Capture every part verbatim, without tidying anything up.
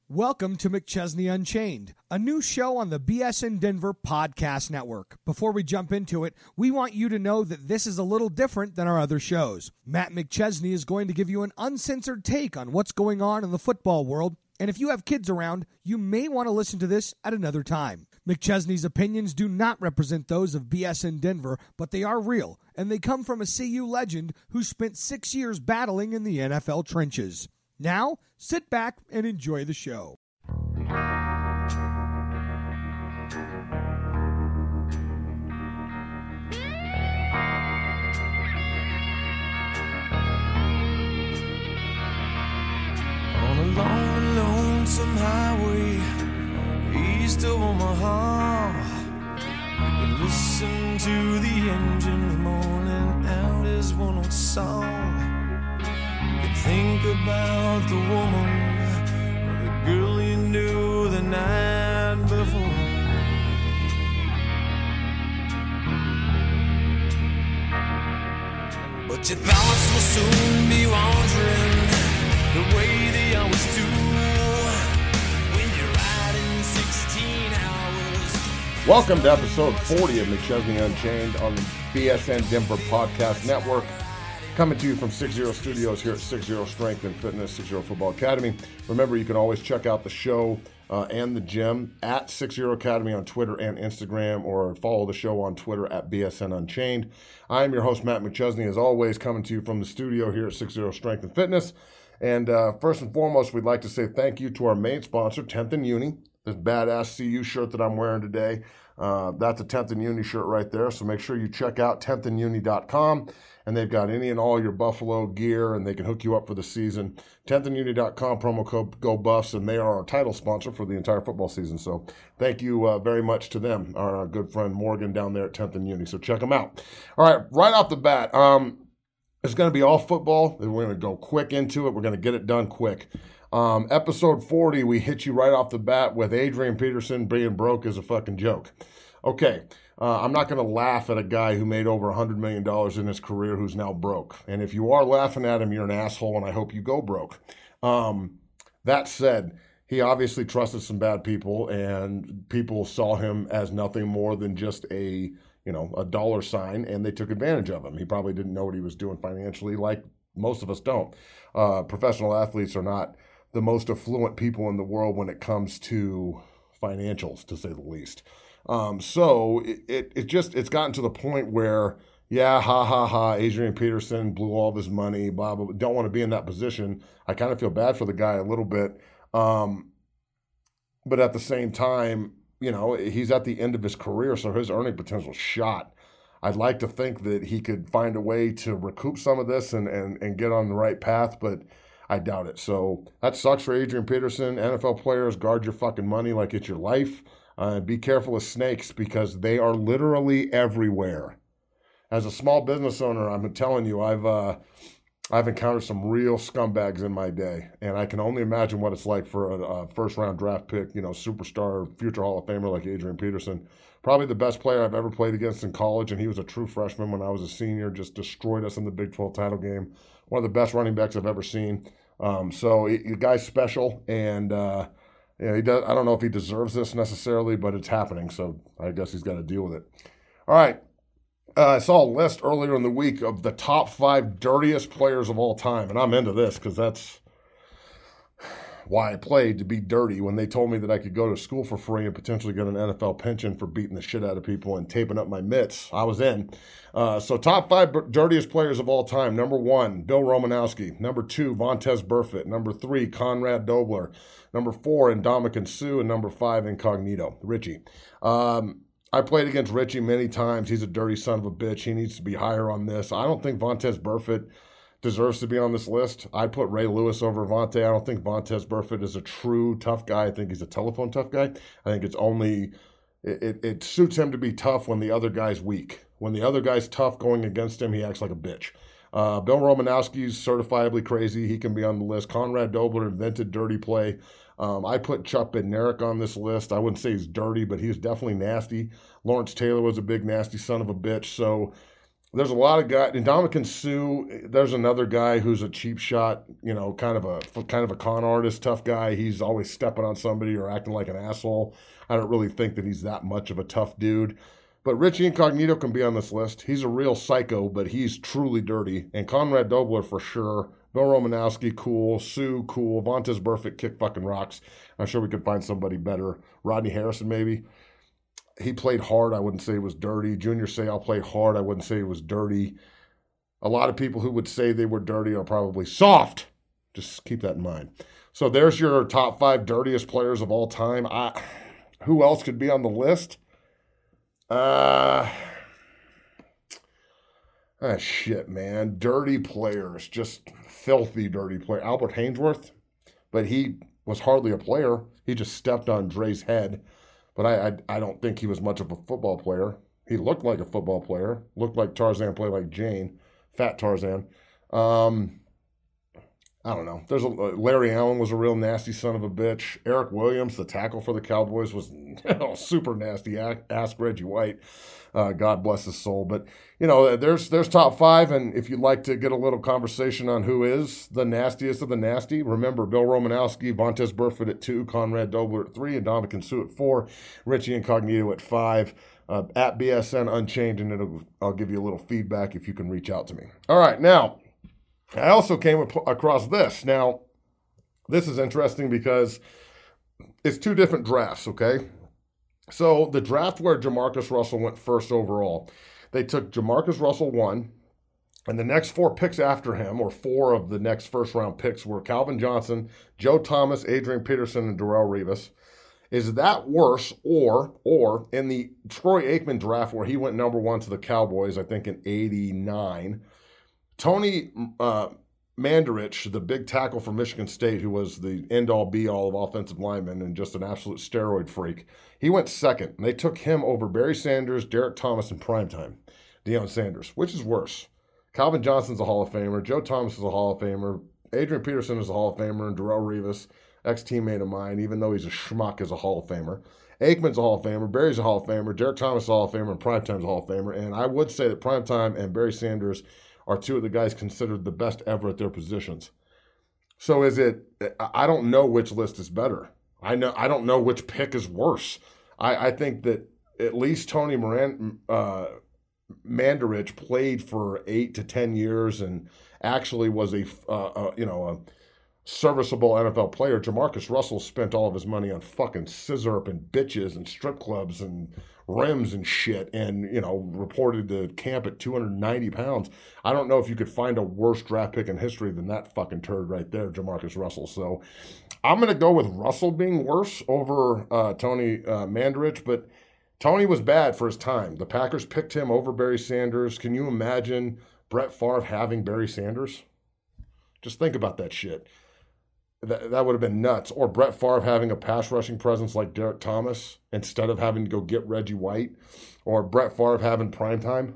Welcome to McChesney Unchained, a new show on the B S N Denver Podcast Network. Before we jump into it, we want you to know that this is a little different than our other shows. Matt McChesney is going to give you an uncensored take on what's going on in the football world, and if you have kids around, you may want to listen to this at another time. McChesney's opinions do not represent those of B S N Denver, but they are real, and they come from a C U legend who spent six years battling in the N F L trenches. Now, sit back and enjoy the show. On a long, lonesome highway east of Omaha, you can listen to the engine moaning out his one old song. Think about the woman or the girl you knew the night before. But your thoughts will soon be wandering the way they always do when you're riding sixteen hours. Welcome to episode forty of McChesney Unchained on the B S N Denver Podcast Network. Coming to you from six zero Studios here at six zero Strength and Fitness, six zero Football Academy. Remember, you can always check out the show uh, and the gym at six zero Academy on Twitter and Instagram, or follow the show on Twitter at B S N Unchained. I am your host, Matt McChesney, as always, coming to you from the studio here at six zero Strength and Fitness. And uh, first and foremost, we'd like to say thank you to our main sponsor, tenth and Uni. This badass C U shirt that I'm wearing today, uh, that's a tenth and Uni shirt right there. So make sure you check out tenth and uni dot com. And they've got any and all your Buffalo gear, and they can hook you up for the season. tenth and uni dot com, promo code GOBUFFS, and they are our title sponsor for the entire football season. So thank you uh, very much to them, our, our good friend Morgan down there at tenth and Uni. So check them out. All right, right off the bat, um, it's going to be all football. We're going to go quick into it. We're going to get it done quick. Um, episode forty, we hit you right off the bat with Adrian Peterson being broke is a fucking joke. Okay. Uh, I'm not going to laugh at a guy who made over one hundred million dollars in his career who's now broke. And if you are laughing at him, you're an asshole, and I hope you go broke. Um, that said, he obviously trusted some bad people, and people saw him as nothing more than just a, you know, a dollar sign, and they took advantage of him. He probably didn't know what he was doing financially, like most of us don't. Uh, professional athletes are not the most affluent people in the world when it comes to financials, to say the least. Um, so it, it, it just, it's gotten to the point where, yeah, ha, ha, ha, Adrian Peterson blew all of his money, blah, blah, blah. Don't want to be in that position. I kind of feel bad for the guy a little bit. Um, but at the same time, you know, he's at the end of his career, so his earning potential is shot. I'd like to think that he could find a way to recoup some of this and, and, and get on the right path, but I doubt it. So that sucks for Adrian Peterson. N F L players, guard your fucking money like it's your life. Uh, be careful of snakes because they are literally everywhere. As a small business owner, I'm telling you, I've uh, I've encountered some real scumbags in my day, and I can only imagine what it's like for a, a first-round draft pick, you know, superstar, future Hall of Famer like Adrian Peterson. Probably the best player I've ever played against in college, and he was a true freshman when I was a senior, just destroyed us in the Big twelve title game. One of the best running backs I've ever seen. Um, so the guy's special, and uh, Yeah, he does. I don't know if he deserves this necessarily, but it's happening, so I guess he's got to deal with it. All right. Uh, I saw a list earlier in the week of the top five dirtiest players of all time, and I'm into this because that's why I played, to be dirty. When they told me that I could go to school for free and potentially get an N F L pension for beating the shit out of people and taping up my mitts, I was in. Uh, so top five b- dirtiest players of all time. Number one, Bill Romanowski. Number two, Vontaze Burfict. Number three, Conrad Dobler. Number four, Ndamukong Suh. And number five, Incognito, Richie. Um, I played against Richie many times. He's a dirty son of a bitch. He needs to be higher on this. I don't think Vontaze Burfict deserves to be on this list. I'd put Ray Lewis over Vontae. I don't think Vontaze Burfict is a true tough guy. I think he's a telephone tough guy. I think it's only, it, it, it suits him to be tough when the other guy's weak. When the other guy's tough going against him, he acts like a bitch. Uh, Bill Romanowski's certifiably crazy. He can be on the list. Conrad Dobler invented dirty play. Um, I put Chuck Bednarik on this list. I wouldn't say he's dirty, but he was definitely nasty. Lawrence Taylor was a big nasty son of a bitch. So there's a lot of guys. Ndamukong Suh, there's another guy who's a cheap shot, you know, kind of a kind of a con artist, tough guy. He's always stepping on somebody or acting like an asshole. I don't really think that he's that much of a tough dude. But Richie Incognito can be on this list. He's a real psycho, but he's truly dirty. And Conrad Dobler for sure. Bill Romanowski, cool. Sue, cool. Vontaze Burfict, kick fucking rocks. I'm sure we could find somebody better. Rodney Harrison, maybe. He played hard. I wouldn't say he was dirty. Junior Seau played hard. I wouldn't say he was dirty. A lot of people who would say they were dirty are probably soft. Just keep that in mind. So there's your top five dirtiest players of all time. I, who else could be on the list? Uh, ah, shit, man. Dirty players. Just filthy dirty player. Albert Hainsworth, but he was hardly a player. He just stepped on Dre's head. But I, I I don't think he was much of a football player. He looked like a football player. Looked like Tarzan, played like Jane. Fat Tarzan. Um, I don't know. There's a Larry Allen was a real nasty son of a bitch. Eric Williams, the tackle for the Cowboys, was you know, super nasty. Ask Reggie White. Uh, God bless his soul. But, you know, there's there's top five. And if you'd like to get a little conversation on who is the nastiest of the nasty, remember Bill Romanowski, Vontaze Burfict at two, Conrad Dobler at three, and Ndamukong Suh at four, Richie Incognito at five, uh, at B S N Unchained, and it'll, I'll give you a little feedback if you can reach out to me. All right, now, I also came across this. Now, this is interesting because it's two different drafts, okay? So the draft where Jamarcus Russell went first overall, they took Jamarcus Russell one, and the next four picks after him, or four of the next first-round picks, were Calvin Johnson, Joe Thomas, Adrian Peterson, and Darrelle Revis. Is that worse, or or in the Troy Aikman draft where he went number one to the Cowboys, I think in eighty-nine, Tony uh, Mandarich, the big tackle from Michigan State, who was the end-all, be-all of offensive linemen and just an absolute steroid freak, he went second. And they took him over Barry Sanders, Derek Thomas, and primetime Deion Sanders. Which is worse? Calvin Johnson's a Hall of Famer. Joe Thomas is a Hall of Famer. Adrian Peterson is a Hall of Famer. And Darrelle Revis, ex-teammate of mine, even though he's a schmuck, is a Hall of Famer. Aikman's a Hall of Famer. Barry's a Hall of Famer. Derek Thomas is a Hall of Famer. And primetime's a Hall of Famer. And I would say that primetime and Barry Sanders are two of the guys considered the best ever at their positions. So is it, I don't know which list is better. I know I don't know which pick is worse. I, I think that at least Tony Moran, uh, Mandarich played for eight to ten years and actually was a, uh, uh, you know, a serviceable N F L player. Jamarcus Russell spent all of his money on fucking scissor and bitches and strip clubs and rims and shit, and, you know, reported to camp at two hundred ninety pounds. I don't know if you could find a worse draft pick in history than that fucking turd right there, Jamarcus Russell. So I'm going to go with Russell being worse over uh, Tony uh, Mandarich, but Tony was bad for his time. The Packers picked him over Barry Sanders. Can you imagine Brett Favre having Barry Sanders? Just think about that shit. That, that would have been nuts. Or Brett Favre having a pass rushing presence like Derek Thomas instead of having to go get Reggie White. Or Brett Favre having primetime.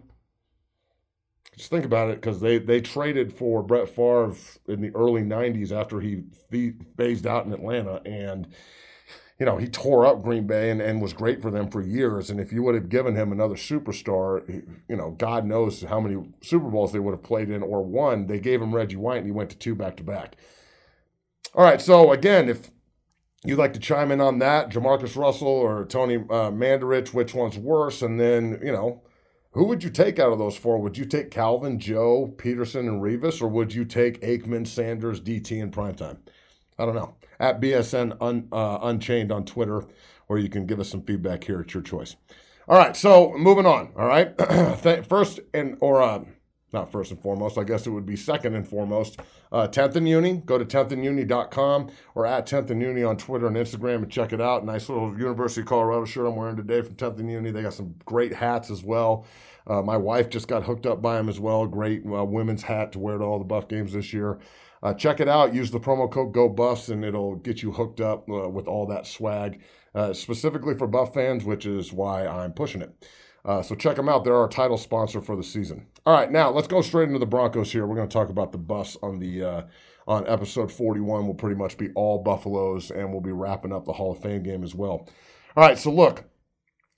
Just think about it, because they, they traded for Brett Favre in the early nineties after he phased out in Atlanta. And, you know, he tore up Green Bay and, and was great for them for years. And if you would have given him another superstar, you know, God knows how many Super Bowls they would have played in or won. They gave him Reggie White and he went to two back-to-back. All right, so again, if you'd like to chime in on that, Jamarcus Russell or Tony uh, Mandarich, which one's worse? And then, you know, who would you take out of those four? Would you take Calvin, Joe, Peterson, and Revis, or would you take Aikman, Sanders, D T, and primetime? I don't know. At B S N un, uh, Unchained on Twitter, or you can give us some feedback here at your choice. All right, so moving on, all right? First, and or uh, not first and foremost, I guess it would be second and foremost, uh, tenth and Uni. Go to tenth and uni dot com or at tenth and Uni on Twitter and Instagram and check it out. Nice little University of Colorado shirt I'm wearing today from tenth and Uni. They got some great hats as well. Uh, my wife just got hooked up by them as well. Great uh, women's hat to wear to all the Buff games this year. Uh, check it out. Use the promo code GOBUFFS and it'll get you hooked up uh, with all that swag, uh, specifically for Buff fans, which is why I'm pushing it. Uh, so check them out. They're our title sponsor for the season. All right, now let's go straight into the Broncos here. We're going to talk about the Buffs on the uh, on episode forty-one. Will pretty much be all Buffaloes, and we'll be wrapping up the Hall of Fame game as well. All right, so look,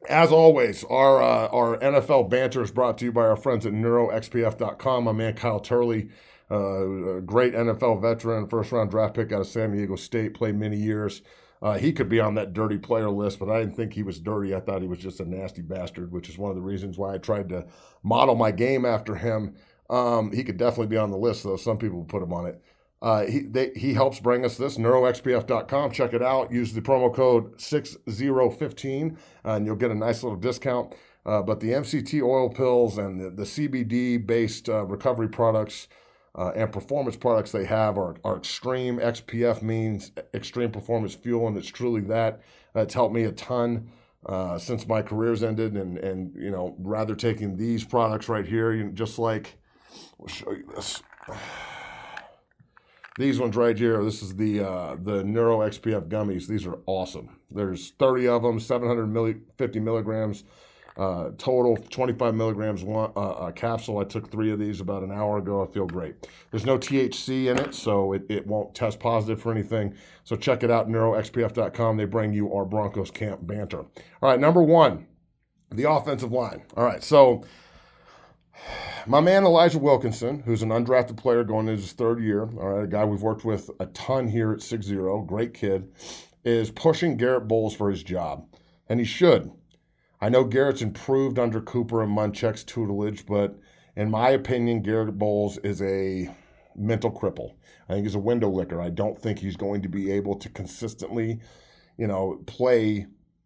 As always, our uh, our N F L banter is brought to you by our friends at neuro x p f dot com. My man Kyle Turley, uh, a great N F L veteran, first-round draft pick out of San Diego State, played many years. Uh, he could be on that dirty player list, but I didn't think he was dirty. I thought he was just a nasty bastard, which is one of the reasons why I tried to model my game after him. Um, he could definitely be on the list, though. Some people put him on it. Uh, he they, he helps bring us this, neuro x p f dot com. Check it out. Use the promo code six zero one five, uh, and you'll get a nice little discount. Uh, but the M C T oil pills and the, the C B D-based uh, recovery products uh, and performance products they have are, are extreme. X P F means extreme performance fuel, and it's truly that. Uh, it's helped me a ton uh, since my career's ended, and, and you know, rather taking these products right here, you know, just like, we'll show you this. These ones right here, this is the uh, the Neuro X P F gummies. These are awesome. There's thirty of them, seven hundred fifty milligrams uh, total, twenty-five milligrams one, uh, a capsule. I took three of these about an hour ago. I feel great. There's no T H C in it, so it, it won't test positive for anything. So check it out, neuro x p f dot com. They bring you our Broncos camp banter. All right, number one, the offensive line. All right, so my man Elijah Wilkinson, who's an undrafted player going into his third year, all right, a guy we've worked with a ton here at six zero, great kid, is pushing Garrett Bowles for his job, and he should. I know Garrett's improved under Cooper and Munchak's tutelage, but in my opinion, Garrett Bowles is a mental cripple. I think he's a window licker. I don't think he's going to be able to consistently, you know, play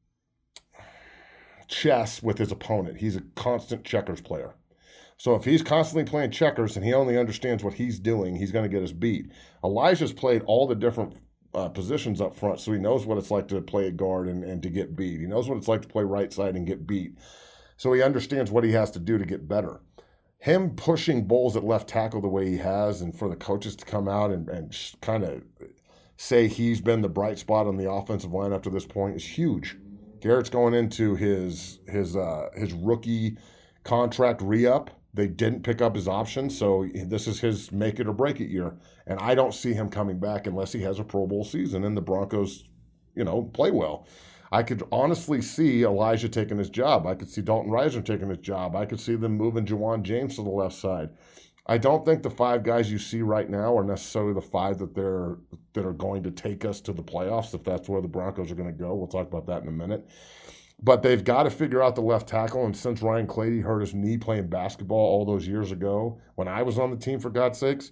chess with his opponent. He's a constant checkers player. So if he's constantly playing checkers and he only understands what he's doing, he's going to get us beat. Elijah's played all the different uh, positions up front, so he knows what it's like to play a guard and, and to get beat. He knows what it's like to play right side and get beat. So he understands what he has to do to get better. Him pushing Bowles at left tackle the way he has, and for the coaches to come out and, and kind of say he's been the bright spot on the offensive line up to this point is huge. Garrett's going into his his uh, his rookie contract re-up. They didn't pick up his option, so this is his make it or break it year. And I don't see him coming back unless he has a Pro Bowl season and the Broncos, you know, play well. I could honestly see Elijah taking his job. I could see Dalton Risner taking his job. I could see them moving Jawan James to the left side. I don't think the five guys you see right now are necessarily the five that they're that are going to take us to the playoffs, if that's where the Broncos are going to go. We'll talk about that in a minute. But they've got to figure out the left tackle, and since Ryan Clady hurt his knee playing basketball all those years ago, when I was on the team, for God's sakes,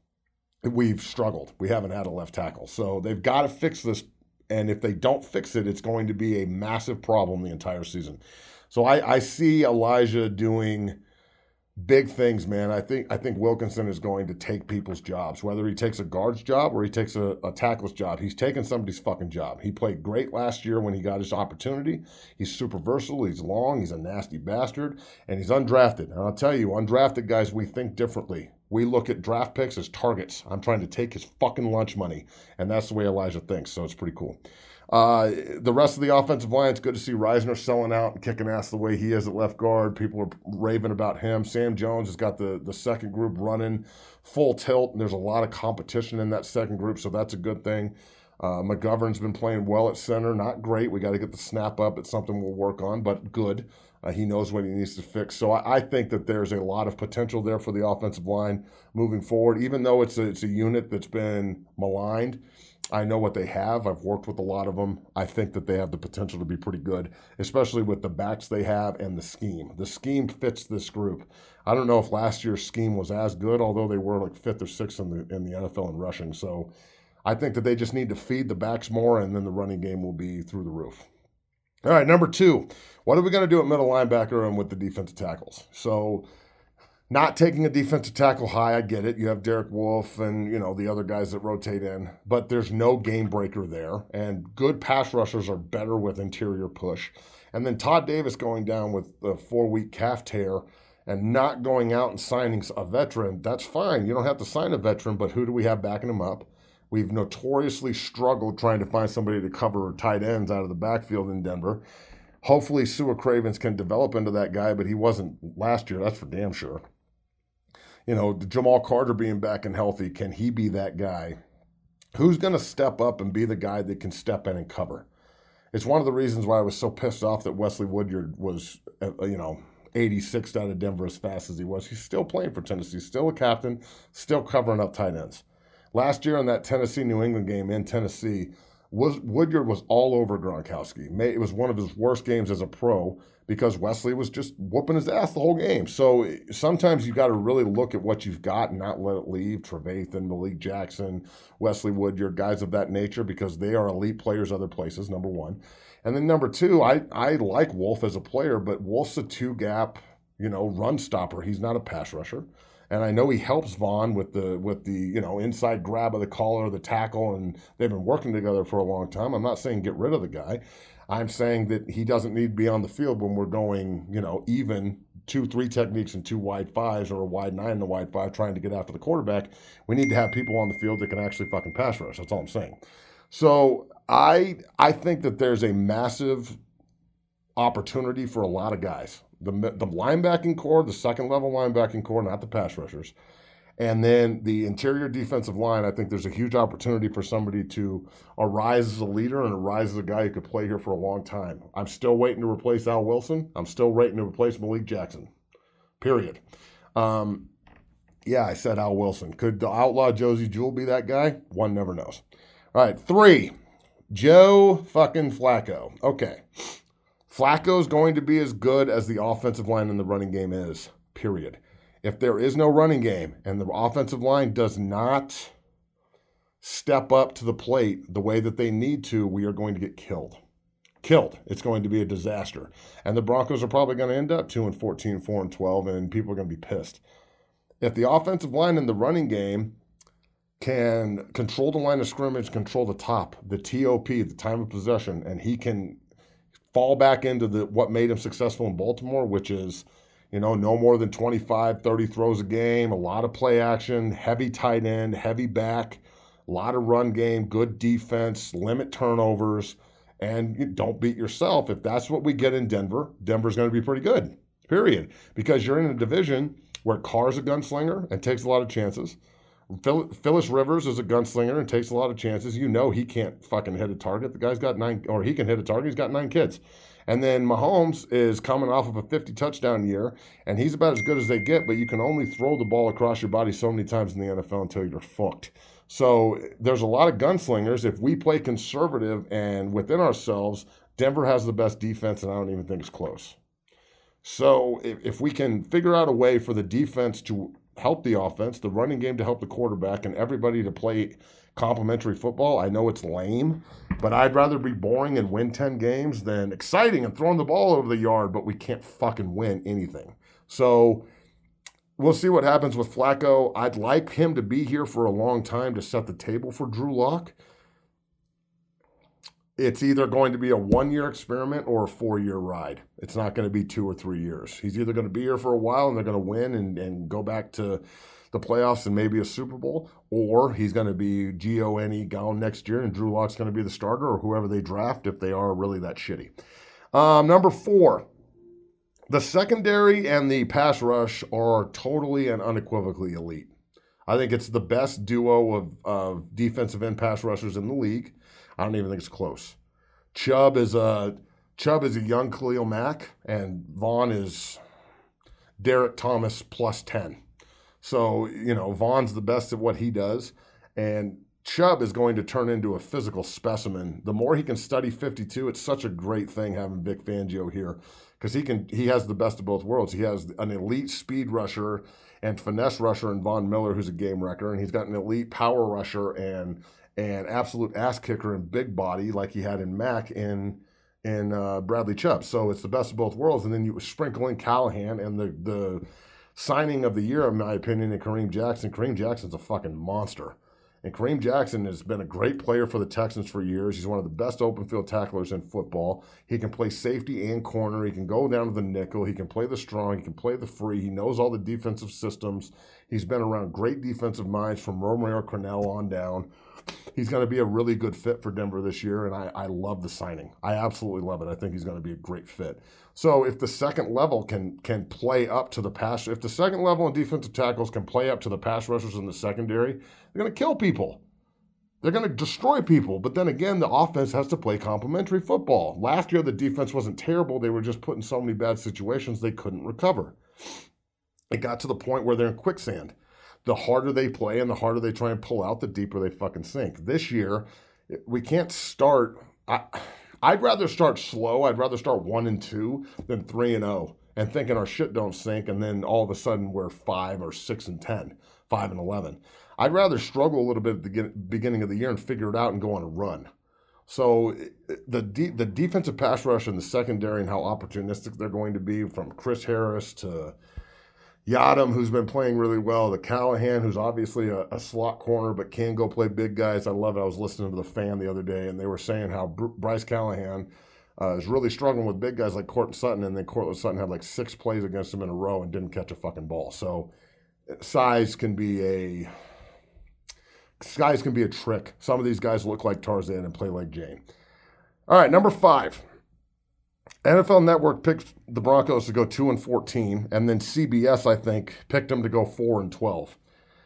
we've struggled. We haven't had a left tackle. So they've got to fix this, and if they don't fix it, it's going to be a massive problem the entire season. So I, I see Elijah doing big things, man. I think I think Wilkinson is going to take people's jobs, whether he takes a guard's job or he takes a, a tackle's job. He's taking somebody's fucking job. He played great last year when he got his opportunity. He's super versatile. He's long. He's a nasty bastard. And he's undrafted. And I'll tell you, undrafted guys, we think differently. We look at draft picks as targets. I'm trying to take his fucking lunch money. And that's the way Elijah thinks, so it's pretty cool. Uh, the rest of the offensive line, it's good to see Risner selling out and kicking ass the way he is at left guard. People are raving about him. Sam Jones has got the, the second group running full tilt, and there's a lot of competition in that second group, so that's a good thing. Uh, McGovern's been playing well at center. Not great. We got to get the snap up. It's something we'll work on, but good. Uh, he knows what he needs to fix. So I, I think that there's a lot of potential there for the offensive line moving forward, even though it's a, it's a unit that's been maligned. I know what they have. I've worked with a lot of them. I think that they have the potential to be pretty good, especially with the backs they have and the scheme. The scheme fits this group. I don't know if last year's scheme was as good, although they were like fifth or sixth in the in the N F L in rushing. So I think that they just need to feed the backs more, and then the running game will be through the roof. All right, number two, what are we going to do at middle linebacker and with the defensive tackles? So not taking a defensive tackle high, I get it. You have Derek Wolfe and, you know, the other guys that rotate in, but there's no game breaker there. And good pass rushers are better with interior push. And then Todd Davis going down with a four-week calf tear and not going out and signing a veteran, that's fine. You don't have to sign a veteran, but who do we have backing him up? We've notoriously struggled trying to find somebody to cover tight ends out of the backfield in Denver. Hopefully Sua Cravens can develop into that guy, but he wasn't last year, that's for damn sure. You know, Jamal Carter being back and healthy, can he be that guy? Who's going to step up and be the guy that can step in and cover? It's one of the reasons why I was so pissed off that Wesley Woodyard was, uh, you know, eighty-sixth out of Denver as fast as he was. He's still playing for Tennessee, still a captain, still covering up tight ends. Last year in that Tennessee-New England game in Tennessee, was, Woodyard was all over Gronkowski. It was one of his worst games as a pro because Wesley was just whooping his ass the whole game. So sometimes you got to really look at what you've got and not let it leave. Trevathan, Malik Jackson, Wesley Woodyard, guys of that nature, because they are elite players other places, number one. And then number two, I, I like Wolf as a player, but Wolf's a two-gap, you know, run stopper. He's not a pass rusher. And I know he helps Vaughn with the with the you know inside grab of the collar, the tackle, and they've been working together for a long time. I'm not saying get rid of the guy. I'm saying that he doesn't need to be on the field when we're going you know even two three techniques and two wide fives or a wide nine and a wide five trying to get after the quarterback. We need to have people on the field that can actually fucking pass rush. That's all I'm saying. So I I think that there's a massive opportunity for a lot of guys. The, the linebacking core, the second level linebacking core, not the pass rushers. And then the interior defensive line, I think there's a huge opportunity for somebody to arise as a leader and arise as a guy who could play here for a long time. I'm still waiting to replace Al Wilson. I'm still waiting to replace Malik Jackson, period. Um, yeah, I said Al Wilson. Could the outlaw Josie Jewell be that guy? One never knows. All right, three, Joe fucking Flacco. Okay. Flacco's going to be as good as the offensive line in the running game is, period. If there is no running game and the offensive line does not step up to the plate the way that they need to, we are going to get killed. Killed. It's going to be a disaster. And the Broncos are probably going to end up two and fourteen, four and twelve, and people are going to be pissed. If the offensive line in the running game can control the line of scrimmage, control the top, the T O P, the time of possession, and he can fall back into the what made him successful in Baltimore, which is, you know, no more than twenty-five, thirty throws a game, a lot of play action, heavy tight end, heavy back, a lot of run game, good defense, limit turnovers, and you don't beat yourself. If that's what we get in Denver, Denver's going to be pretty good, period. Because you're in a division where Carr's a gunslinger and takes a lot of chances. Phyllis Rivers is a gunslinger and takes a lot of chances. You know he can't fucking hit a target. The guy's got nine, or he can hit a target. He's got nine kids. And then Mahomes is coming off of a fifty touchdown year, and he's about as good as they get, but you can only throw the ball across your body so many times in the N F L until you're fucked. So there's a lot of gunslingers. If we play conservative and within ourselves, Denver has the best defense, and I don't even think it's close. So if, if we can figure out a way for the defense to help the offense, the running game to help the quarterback, and everybody to play complementary football. I know it's lame, but I'd rather be boring and win ten games than exciting and throwing the ball over the yard, but we can't fucking win anything. So we'll see what happens with Flacco. I'd like him to be here for a long time to set the table for Drew Lock. It's either going to be a one-year experiment or a four-year ride. It's not going to be two or three years. He's either going to be here for a while and they're going to win and, and go back to the playoffs and maybe a Super Bowl, or he's going to be G O N E gone next year and Drew Lock's going to be the starter or whoever they draft if they are really that shitty. Um, number four, the secondary and the pass rush are totally and unequivocally elite. I think it's the best duo of, of defensive end pass rushers in the league. I don't even think it's close. Chubb is a Chubb is a young Khalil Mack, and Vaughn is Derek Thomas plus ten. So, you know, Vaughn's the best at what he does, and Chubb is going to turn into a physical specimen. The more he can study fifty-two, it's such a great thing having Vic Fangio here because he can he has the best of both worlds. He has an elite speed rusher and finesse rusher in Von Miller, who's a game wrecker, and he's got an elite power rusher and and absolute ass kicker and big body like he had in Mack in in uh, Bradley Chubb. So it's the best of both worlds. And then you sprinkle in Callahan and the the signing of the year, in my opinion, in Kareem Jackson. Kareem Jackson's a fucking monster. And Kareem Jackson has been a great player for the Texans for years. He's one of the best open field tacklers in football. He can play safety and corner. He can go down to the nickel. He can play the strong. He can play the free. He knows all the defensive systems. He's been around great defensive minds from Romeo Crennel on down. He's going to be a really good fit for Denver this year, and I, I love the signing. I absolutely love it. I think he's going to be a great fit. So if the second level can can play up to the pass, if the second level and defensive tackles can play up to the pass rushers in the secondary, they're going to kill people. they're going to destroy people. But then again, the offense has to play complementary football. Last year, the defense wasn't terrible. They were just put in so many bad situations they couldn't recover. It got to the point where they're in quicksand. The harder they play and the harder they try and pull out, the deeper they fucking sink. This year, we can't start. I, I'd rather start slow. I'd rather start one and two than three and oh and thinking our shit don't sink, and then all of a sudden we're five or six and ten, five and eleven. I'd rather struggle a little bit at the beginning of the year and figure it out and go on a run. So the de- the defensive pass rush and the secondary and how opportunistic they're going to be, from Chris Harris to Yadam, who's been playing really well, to Callahan, who's obviously a, a slot corner but can go play big guys. I love it. I was listening to The Fan the other day, and they were saying how Br- Bryce Callahan uh, is really struggling with big guys like Courtland Sutton, and then Courtland Sutton had like six plays against him in a row and didn't catch a fucking ball. So size can be a size can be a trick. Some of these guys look like Tarzan and play like Jane. All right, number five. N F L Network picked the Broncos to go two and fourteen, and then C B S, I think, picked them to go four and twelve.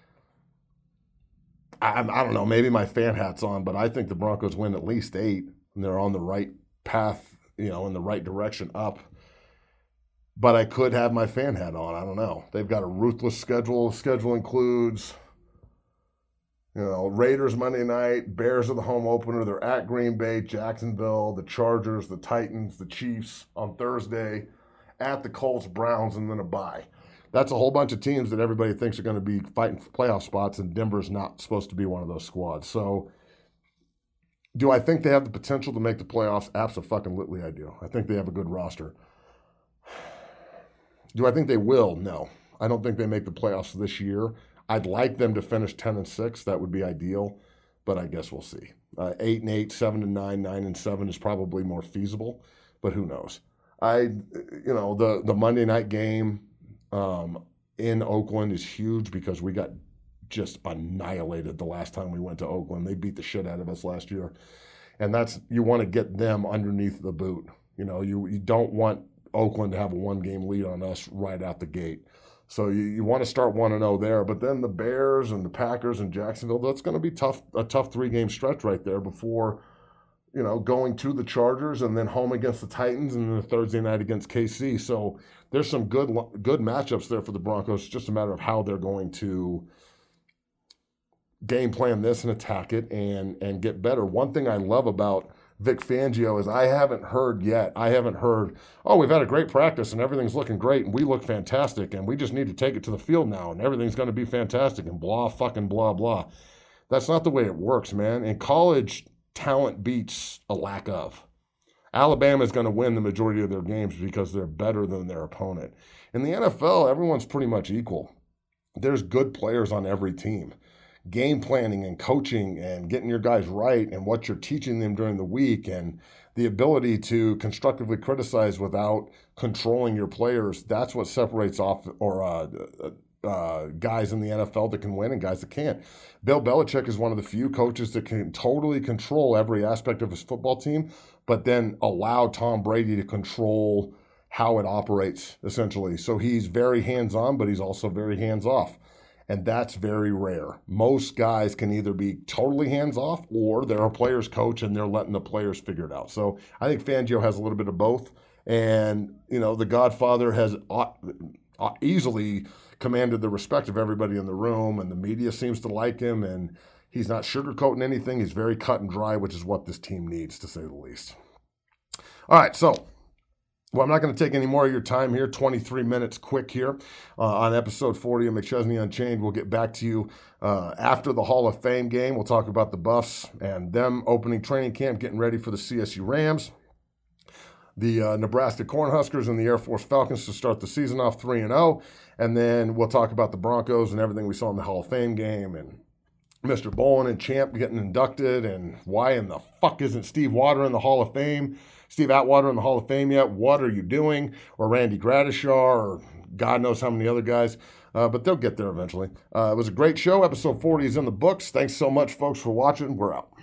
I, I don't know, maybe my fan hat's on, but I think the Broncos win at least eight, and they're on the right path, you know, in the right direction up. But I could have my fan hat on. I don't know. They've got a ruthless schedule. Schedule includes, you know, Raiders Monday night, Bears are the home opener. They're at Green Bay, Jacksonville, the Chargers, the Titans, the Chiefs on Thursday, at the Colts, Browns, and then a bye. That's a whole bunch of teams that everybody thinks are going to be fighting for playoff spots, and Denver's not supposed to be one of those squads. So do I think they have the potential to make the playoffs? Abso-fucking-lutely I do. I think they have a good roster. Do I think they will? No. I don't think they make the playoffs this year. I'd like them to finish ten and six. That would be ideal, but I guess we'll see. Uh, eight and eight, seven and nine, nine and seven is probably more feasible, but who knows? I, you know, the the Monday night game um, in Oakland is huge because we got just annihilated the last time we went to Oakland. They beat the shit out of us last year, and that's, you want to get them underneath the boot. You know, you you don't want Oakland to have a one game lead on us right out the gate. So you, you want to start one and oh there, but then the Bears and the Packers and Jacksonville, that's going to be tough, a tough three-game stretch right there before, you know, going to the Chargers and then home against the Titans and then the Thursday night against K C. So there's some good good matchups there for the Broncos. It's just a matter of how they're going to game plan this and attack it and and get better. One thing I love about Vic Fangio is I haven't heard yet. I haven't heard, oh, we've had a great practice and everything's looking great and we look fantastic and we just need to take it to the field now and everything's going to be fantastic and blah, fucking blah, blah. That's not the way it works, man. In college, talent beats a lack of. Alabama's going to win the majority of their games because they're better than their opponent. In the N F L, everyone's pretty much equal. There's good players on every team. Game planning and coaching and getting your guys right and what you're teaching them during the week and the ability to constructively criticize without controlling your players, that's what separates off or uh, uh, guys in the N F L that can win and guys that can't. Bill Belichick is one of the few coaches that can totally control every aspect of his football team, but then allow Tom Brady to control how it operates, essentially. So he's very hands-on, but he's also very hands-off. And that's very rare. Most guys can either be totally hands-off or they're a player's coach and they're letting the players figure it out. So I think Fangio has a little bit of both. And, you know, the Godfather has easily commanded the respect of everybody in the room, and the media seems to like him, and he's not sugarcoating anything. He's very cut and dry, which is what this team needs, to say the least. All right, so well, I'm not going to take any more of your time here. twenty-three minutes quick here uh, on episode forty of McChesney Unchained. We'll get back to you uh, after the Hall of Fame game. We'll talk about the Buffs and them opening training camp, getting ready for the C S U Rams, the uh, Nebraska Cornhuskers, and the Air Force Falcons to start the season off three and oh. And then we'll talk about the Broncos and everything we saw in the Hall of Fame game, and Mister Bowen and Champ getting inducted, and why in the fuck isn't Steve Water in the Hall of Fame? Steve Atwater in the Hall of Fame yet? What are you doing? Or Randy Gradishar, or God knows how many other guys. Uh, but they'll get there eventually. Uh, it was a great show. Episode forty is in the books. Thanks so much, folks, for watching. We're out.